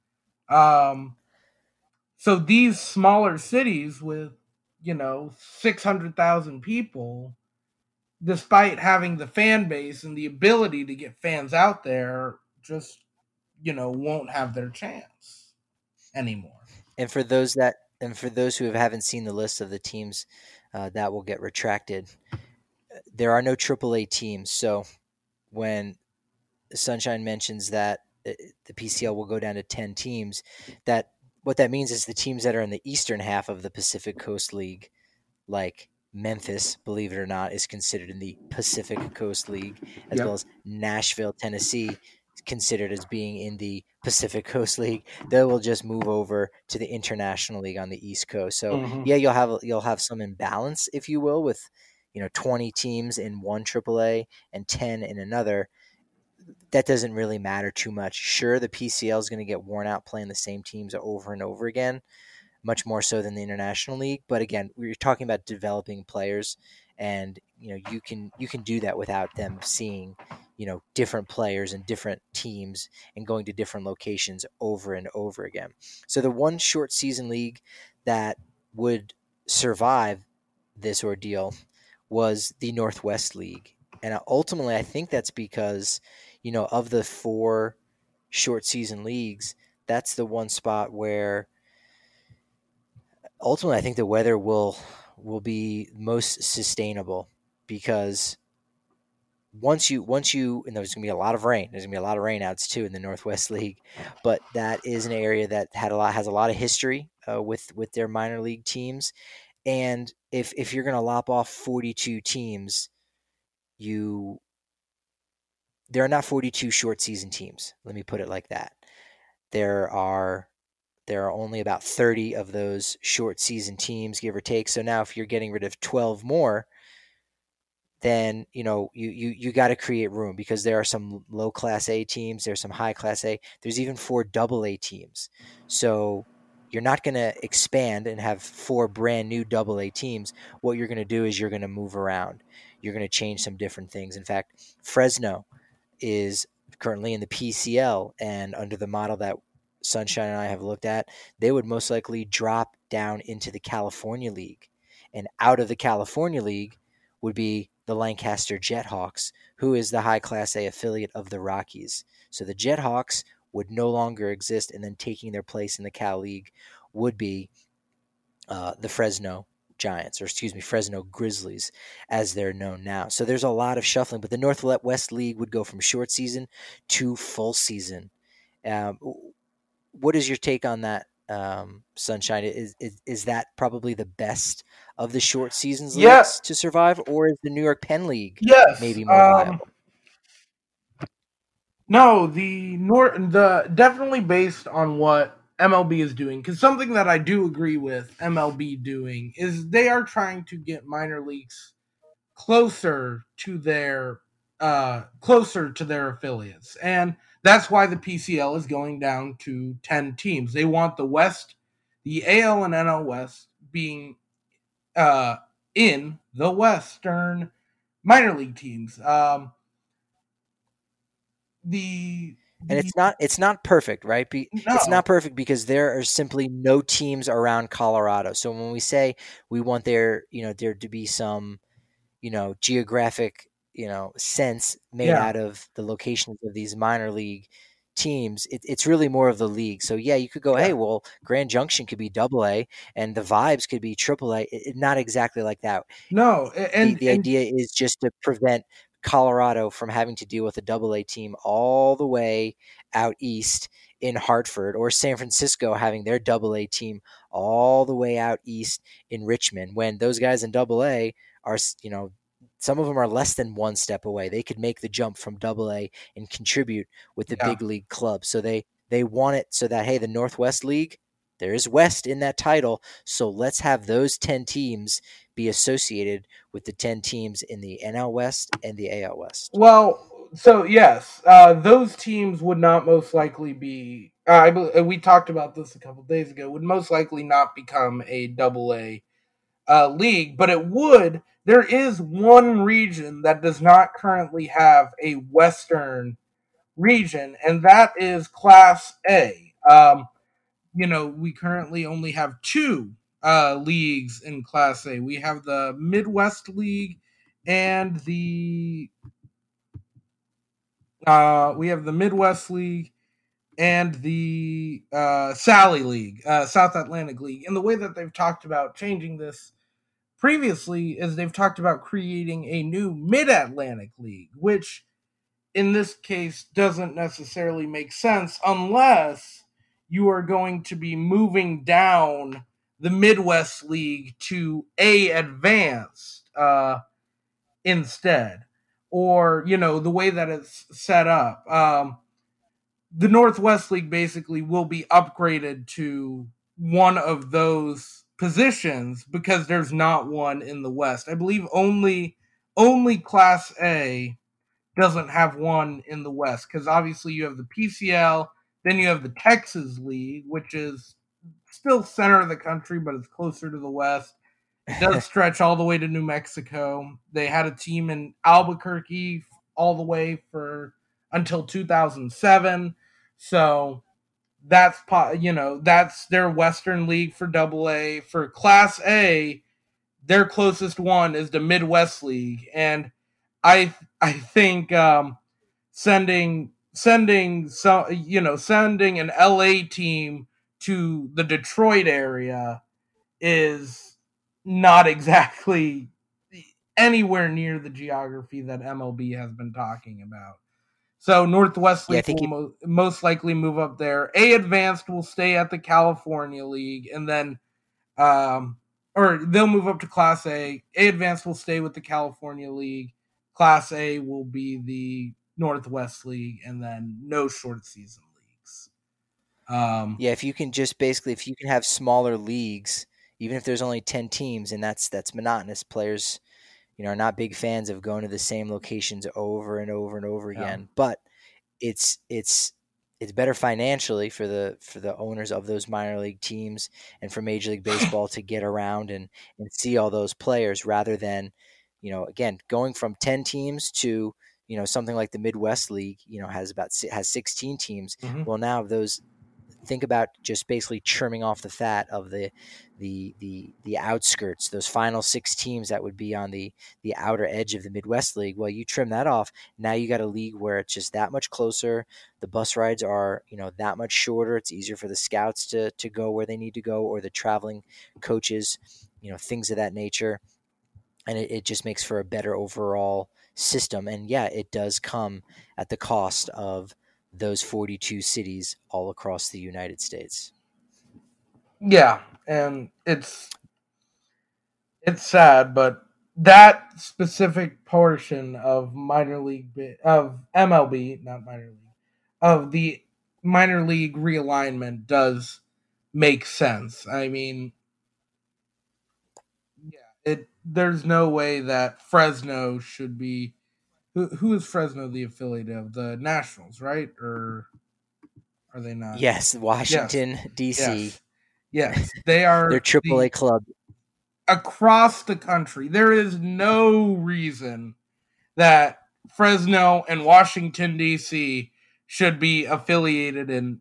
Um, so these smaller cities with, you know, six hundred thousand people, despite having the fan base and the ability to get fans out there, just, you know, won't have their chance anymore. And for those that, and for those who haven't seen the list of the teams uh, that will get retracted, there are no triple A teams. So when Sunshine mentions that the P C L will go down to ten teams, that what that means is the teams that are in the eastern half of the Pacific Coast League like Memphis, believe it or not, is considered in the Pacific Coast League, as Yep. well as Nashville, Tennessee, considered as being in the Pacific Coast League. They will just move over to the International League on the East Coast. So Mhm. yeah, you'll have you'll have some imbalance, if you will, with you know twenty teams in one triple A and ten in another. That doesn't really matter too much. Sure, the P C L is going to get worn out playing the same teams over and over again, much more so than the International League. But again, we're talking about developing players, and you know you can you can do that without them seeing you know different players and different teams and going to different locations over and over again. So the one short season league that would survive this ordeal was the Northwest League, and ultimately I think that's because you know of the four short season leagues, that's the one spot where ultimately I think the weather will will be most sustainable, because once you once you and there's going to be a lot of rain. There's going to be a lot of rainouts too in the Northwest League, but that is an area that had a lot has a lot of history uh, with with their minor league teams. And if if you're going to lop off forty-two teams, you there are not forty-two short season teams. Let me put it like that. There are There are only about thirty of those short season teams, give or take. So now if you're getting rid of twelve more, then you know you you, you got to create room, because there are some low class A teams, there's some high class A, there's even four double A teams. So you're not going to expand and have four brand new double A teams. What you're going to do is you're going to move around. You're going to change some different things. In fact, Fresno is currently in the P C L, and under the model that Sunshine and I have looked at, they would most likely drop down into the California League. And out of the California League would be the Lancaster Jethawks, who is the high Class A affiliate of the Rockies. So the Jethawks would no longer exist, and then taking their place in the Cal League would be uh, the Fresno Giants, or excuse me, Fresno Grizzlies, as they're known now. So there's a lot of shuffling, but the Northwest League would go from short season to full season. Um, what is your take on that, um, Sunshine? Is, is is that probably the best of the short seasons Yeah. leagues to survive, or is the New York Penn League Yes. maybe more Um, viable? no, the Nor the definitely based on what M L B is doing, because something that I do agree with M L B doing is they are trying to get minor leagues closer to their uh closer to their affiliates, and that's why the P C L is going down to ten teams. They want the West, the A L and N L West being uh in the Western minor league teams. Um the, And the it's not it's not perfect, right? Be, it's no not perfect because there are simply no teams around Colorado. So when we say we want there, you know, there to be some, you know, geographic, you know, sense made yeah out of the locations of these minor league teams, it, it's really more of the league. So yeah, you could go, yeah hey, well, Grand Junction could be double A and the Vibes could be triple A. It, it, not exactly like that. no The and the and idea is just to prevent Colorado from having to deal with a double A team all the way out east in Hartford, or San Francisco having their double A team all the way out east in Richmond, when those guys in double A are, you know, some of them are less than one step away. They could make the jump from double A and contribute with the yeah big league club. So they they want it so that, hey, the Northwest League, there is West in that title, so let's have those ten teams be associated with the ten teams in the N L West and the A L West. well so yes, uh those teams would not most likely be uh, I bel- we talked about this a couple days ago, would most likely not become a double A uh, league, but it would. There is one region that does not currently have a Western region, and that is Class A. Um, you know, we currently only have two uh, leagues in Class A. We have the Midwest League and the uh, we have the Midwest League and the uh, Sally League, uh, South Atlantic League. And the way that they've talked about changing this previously is they've talked about creating a new Mid-Atlantic League, which in this case doesn't necessarily make sense unless you are going to be moving down the Midwest League to A, advance uh, instead. Or, you know, the way that it's set up. Um, the Northwest League basically will be upgraded to one of those positions because there's not one in the West. I believe only only Class A doesn't have one in the West because obviously you have the P C L, then you have the Texas League, which is still center of the country, but it's closer to the West. It does stretch all the way to New Mexico. They had a team in Albuquerque all the way for until two thousand seven. So that's, you know, that's their Western League for Double A. For Class A, their closest one is the Midwest League, and I I think um, sending sending so you know sending an L A team to the Detroit area is not exactly anywhere near the geography that M L B has been talking about. So Northwest League yeah, will mo- most likely move up there. A Advanced will stay at the California League, and then um, or they'll move up to Class A. A Advanced will stay with the California League. Class A will be the Northwest League, and then no short season leagues. Um, yeah, if you can just basically, if you can have smaller leagues, even if there's only ten teams, and that's that's monotonous. Players, you know, are not big fans of going to the same locations over and over and over again. Yeah. But it's it's it's better financially for the for the owners of those minor league teams and for Major League Baseball to get around and, and see all those players rather than, you know, again, going from ten teams to, you know, something like the Midwest League, you know, has about has sixteen teams. Mm-hmm. Well, now those think about just basically trimming off the fat of the the the the outskirts, those final six teams that would be on the the outer edge of the Midwest League. Well, you trim that off. Now you got a league where it's just that much closer. The bus rides are, you know, that much shorter. It's easier for the scouts to to go where they need to go, or the traveling coaches, you know, things of that nature. And it, it just makes for a better overall system. And yeah, it does come at the cost of those forty-two cities all across the United States. Yeah, and it's it's sad, but that specific portion of minor league of M L B, not minor league, of the minor league realignment does make sense. I mean, yeah, it there's no way that Fresno should be who who is Fresno the affiliate of? The Nationals, right? Or are they not? Yes, Washington, yes. D C. Yes. Yes, they are. They're triple A club. Across the country, there is no reason that Fresno and Washington, D C should be affiliated in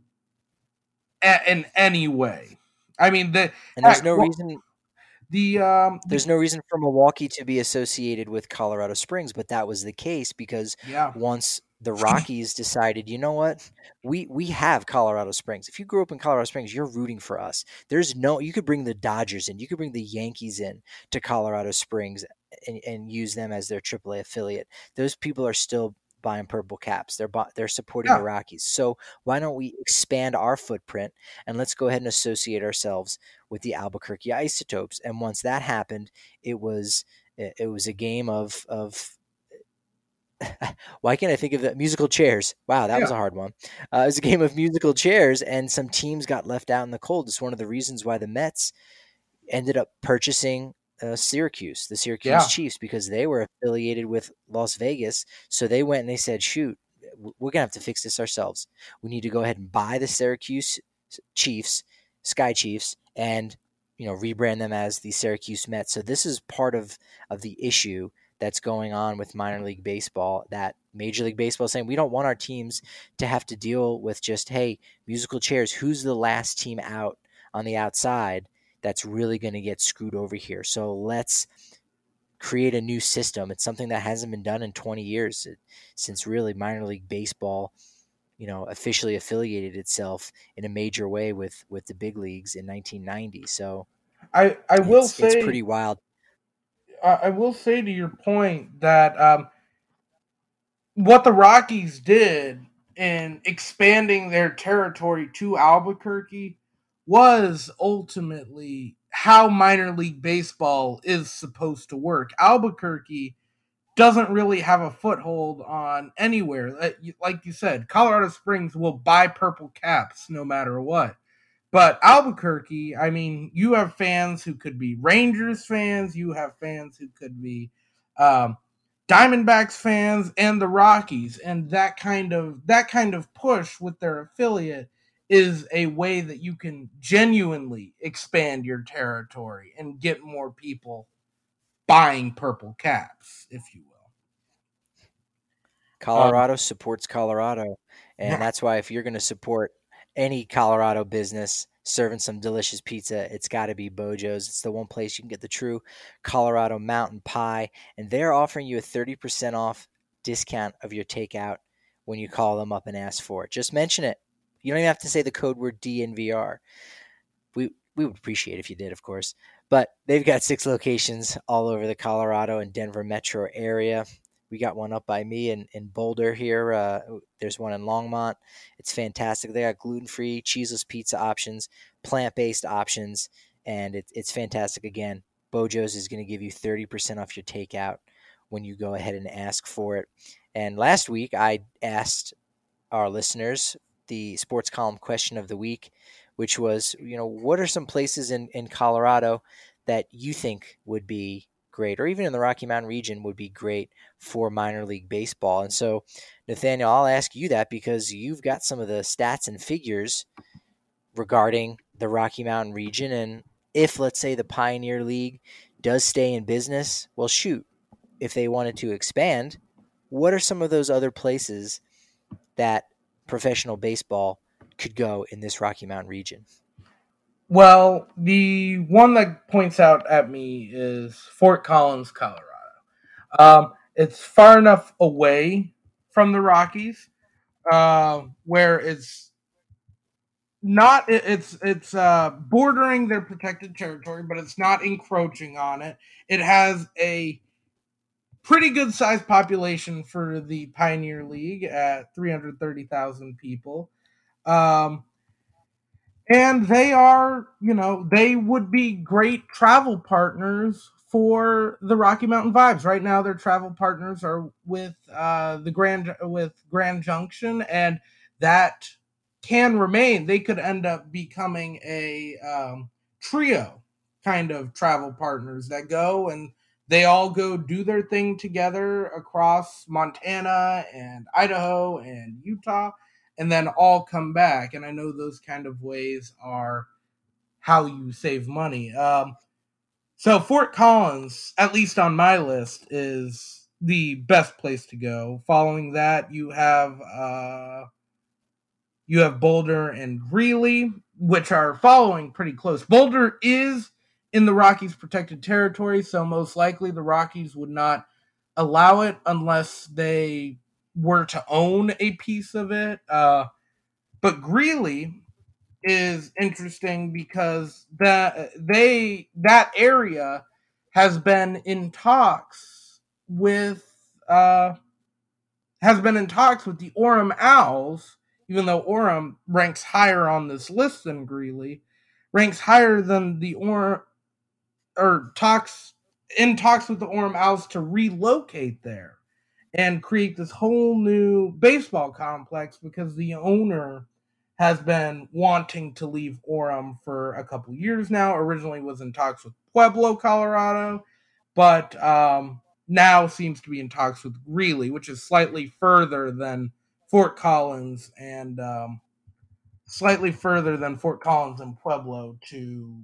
in any way. I mean, the, and there's no reason... The um, There's no reason for Milwaukee to be associated with Colorado Springs, but that was the case because yeah. once the Rockies decided, you know what, we we have Colorado Springs. If you grew up in Colorado Springs, you're rooting for us. There's no, you could bring the Dodgers in, you could bring the Yankees in to Colorado Springs and, and use them as their triple A affiliate. Those people are still buying purple caps. They're they're supporting yeah. the Rockies. So why don't we expand our footprint and let's go ahead and associate ourselves with the Albuquerque Isotopes? And once that happened, it was it was a game of of why can't I think of the musical chairs? Wow, that yeah. was a hard one. Uh, it was a game of musical chairs, and some teams got left out in the cold. It's one of the reasons why the Mets ended up purchasing Uh, Syracuse, the Syracuse yeah. Chiefs, because they were affiliated with Las Vegas. So they went and they said, shoot, we're going to have to fix this ourselves. We need to go ahead and buy the Syracuse Chiefs, Sky Chiefs, and, you know, rebrand them as the Syracuse Mets. So this is part of, of the issue that's going on with minor league baseball, that Major League Baseball is saying we don't want our teams to have to deal with just, hey, musical chairs, who's the last team out on the outside that's really going to get screwed over here. So let's create a new system. It's something that hasn't been done in twenty years since really minor league baseball, you know, officially affiliated itself in a major way with, with the big leagues in nineteen ninety. So I, I will it's, say it's pretty wild. I will say to your point that um, what the Rockies did in expanding their territory to Albuquerque was ultimately how minor league baseball is supposed to work. Albuquerque doesn't really have a foothold on anywhere. Like you said, Colorado Springs will buy purple caps no matter what. But Albuquerque, I mean, you have fans who could be Rangers fans, you have fans who could be um, Diamondbacks fans, and the Rockies, and that kind of that kind of push with their affiliate is a way that you can genuinely expand your territory and get more people buying purple caps, if you will. Colorado um, supports Colorado, and that's why if you're going to support any Colorado business serving some delicious pizza, it's got to be Bojo's. It's the one place you can get the true Colorado mountain pie, and they're offering you a thirty percent off discount of your takeout when you call them up and ask for it. Just mention it. You don't even have to say the code word D N V R. We we would appreciate it if you did, of course. But they've got six locations all over the Colorado and Denver metro area. We got one up by me in, in Boulder here. Uh, there's one in Longmont. It's fantastic. They got gluten-free, cheeseless pizza options, plant-based options, and it, it's fantastic. Again, Bojo's is going to give you thirty percent off your takeout when you go ahead and ask for it. And last week, I asked our listeners the sports column question of the week, which was, you know, what are some places in, in Colorado that you think would be great, or even in the Rocky Mountain region would be great for minor league baseball? And so, Nathaniel, I'll ask you that because you've got some of the stats and figures regarding the Rocky Mountain region. And if, let's say, the Pioneer League does stay in business, well, shoot, if they wanted to expand, what are some of those other places that professional baseball could go in this Rocky Mountain region? Well, the one that points out at me is Fort Collins, Colorado. Um, it's far enough away from the Rockies uh, where it's not it, it's it's uh, bordering their protected territory, but it's not encroaching on it. It has a pretty good sized population for the Pioneer League at three hundred thirty thousand people. Um, And they are, you know, they would be great travel partners for the Rocky Mountain Vibes. Right now, their travel partners are with uh, the Grand with Grand Junction, and that can remain. They could end up becoming a um, trio kind of travel partners that go and they all go do their thing together across Montana and Idaho and Utah, and then all come back. And I know those kind of ways are how you save money. Um, so Fort Collins, at least on my list, is the best place to go. Following that, you have uh, you have Boulder and Greeley, which are following pretty close. Boulder is in the Rockies protected territory, so most likely the Rockies would not allow it unless they were to own a piece of it. Uh, but Greeley is interesting because that they that area has been in talks with uh, has been in talks with the Orem Owls, even though Orem ranks higher on this list than Greeley, ranks higher than the Orem or talks in talks with the Orem Owls to relocate there and create this whole new baseball complex because the owner has been wanting to leave Orem for a couple years now. Originally was in talks with Pueblo, Colorado, but um, now seems to be in talks with Greeley, which is slightly further than Fort Collins and um, slightly further than Fort Collins and Pueblo to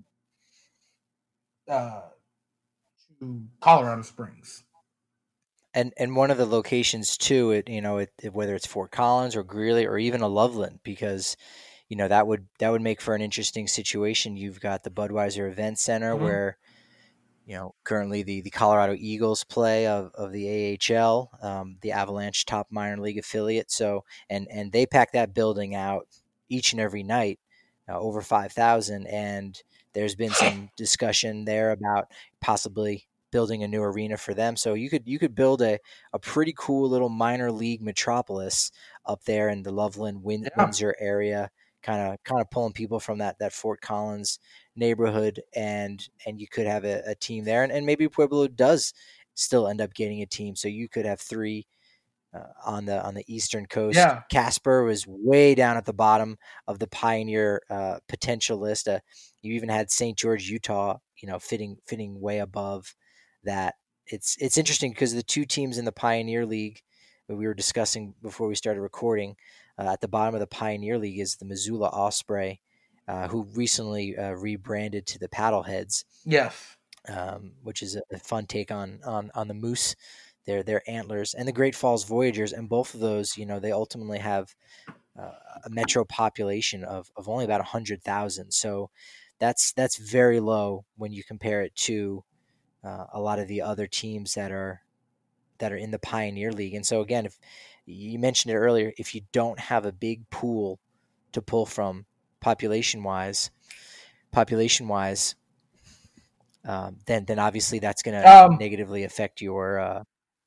uh, to Colorado Springs. And and one of the locations too, it you know, it, it, whether it's Fort Collins or Greeley or even a Loveland, because you know that would that would make for an interesting situation. You've got the Budweiser Event Center mm-hmm. where you know currently the, the Colorado Eagles play of, of the A H L, um, the Avalanche top minor league affiliate. So and and they pack that building out each and every night, uh, over five thousand, and there's been some discussion there about possibly building a new arena for them. So you could you could build a, a pretty cool little minor league metropolis up there in the Loveland Win- yeah. Windsor area, kind of kind of pulling people from that that Fort Collins neighborhood, and and you could have a, a team there, and, and maybe Pueblo does still end up getting a team, so you could have three uh, on the on the eastern coast. Yeah. Casper was way down at the bottom of the Pioneer uh, potential list. Uh, you even had Saint George, Utah, you know, fitting fitting way above that. It's it's interesting because the two teams in the Pioneer League that we were discussing before we started recording, uh, at the bottom of the Pioneer League is the Missoula Osprey, uh, who recently uh, rebranded to the Paddleheads. Yes. Um, which is a, a fun take on on on the Moose, their their antlers, and the Great Falls Voyagers, and both of those, you know, they ultimately have uh, a metro population of of only about a hundred thousand. So that's that's very low when you compare it to uh, a lot of the other teams that are that are in the Pioneer League. And so again, if you mentioned it earlier, if you don't have a big pool to pull from population wise, population wise. Um, then, then obviously that's going to Um, negatively affect your. Uh...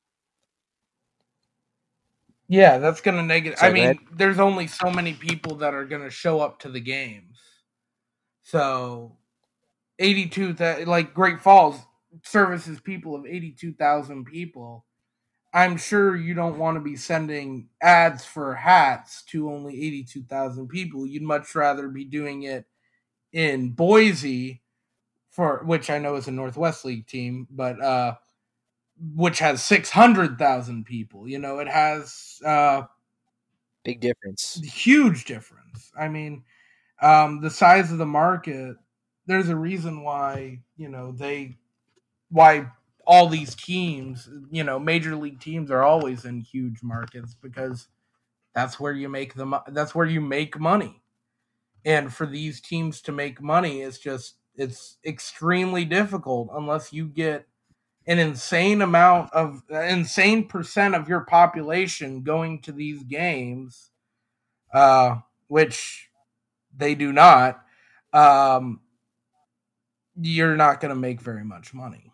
Yeah, that's going to negative. I Sorry, go mean, ahead. there's only so many people that are going to show up to the games. So, eighty-two, that like Great Falls services people of eighty-two thousand people. I'm sure you don't want to be sending ads for hats to only eighty-two thousand people. You'd much rather be doing it in Boise, for which I know is a Northwest League team, but uh, which has six hundred thousand people. You know, it has uh, big difference, huge difference. I mean, um, the size of the market. There's a reason why you know they why all these teams, you know, major league teams are always in huge markets because that's where you make the that's where you make money. And for these teams to make money, it's just it's extremely difficult unless you get an insane amount of insane percent of your population going to these games, uh, which they do not. Um, you're not going to make very much money.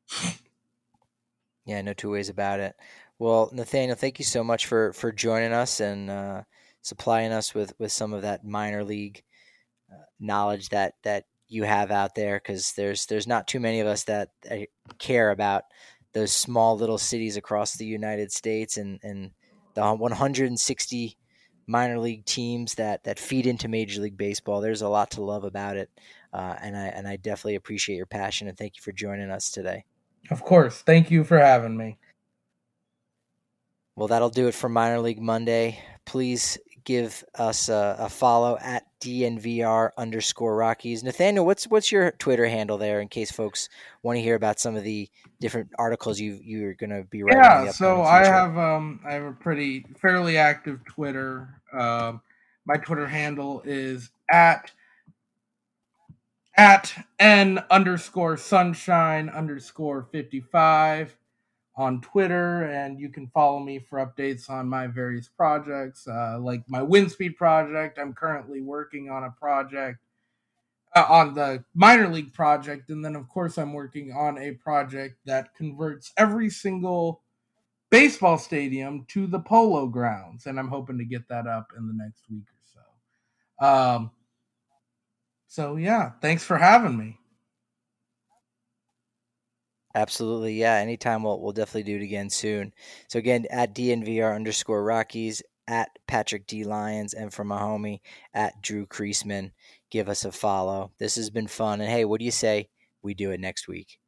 Yeah, no two ways about it. Well, Nathaniel, thank you so much for for joining us and uh, supplying us with with some of that minor league uh, knowledge that that you have out there, because there's there's not too many of us that, that care about those small little cities across the United States and and the one hundred sixty minor league teams that that feed into Major League Baseball. There's a lot to love about it, uh, and I and I definitely appreciate your passion, and thank you for joining us today. Of course. Thank you for having me. Well, that'll do it for Minor League Monday. Please give us a, a follow at D N V R underscore Rockies. Nathaniel, what's what's your Twitter handle there in case folks want to hear about some of the different articles you you're going to be writing? Yeah, in the so future? I have um I have a pretty fairly active Twitter. Um, my Twitter handle is at at n underscore sunshine underscore fifty five on Twitter, and you can follow me for updates on my various projects, uh, like my Windspeed project. I'm currently working on a project uh, on the minor league project, and then of course I'm working on a project that converts every single baseball stadium to the Polo Grounds, and I'm hoping to get that up in the next week or so. Um, so yeah, thanks for having me. Absolutely, yeah. Anytime, we'll we'll definitely do it again soon. So again, at D N V R underscore Rockies, at Patrick D Lyons, and for my homie at Drew Creasman, give us a follow. This has been fun, and hey, what do you say we do it next week?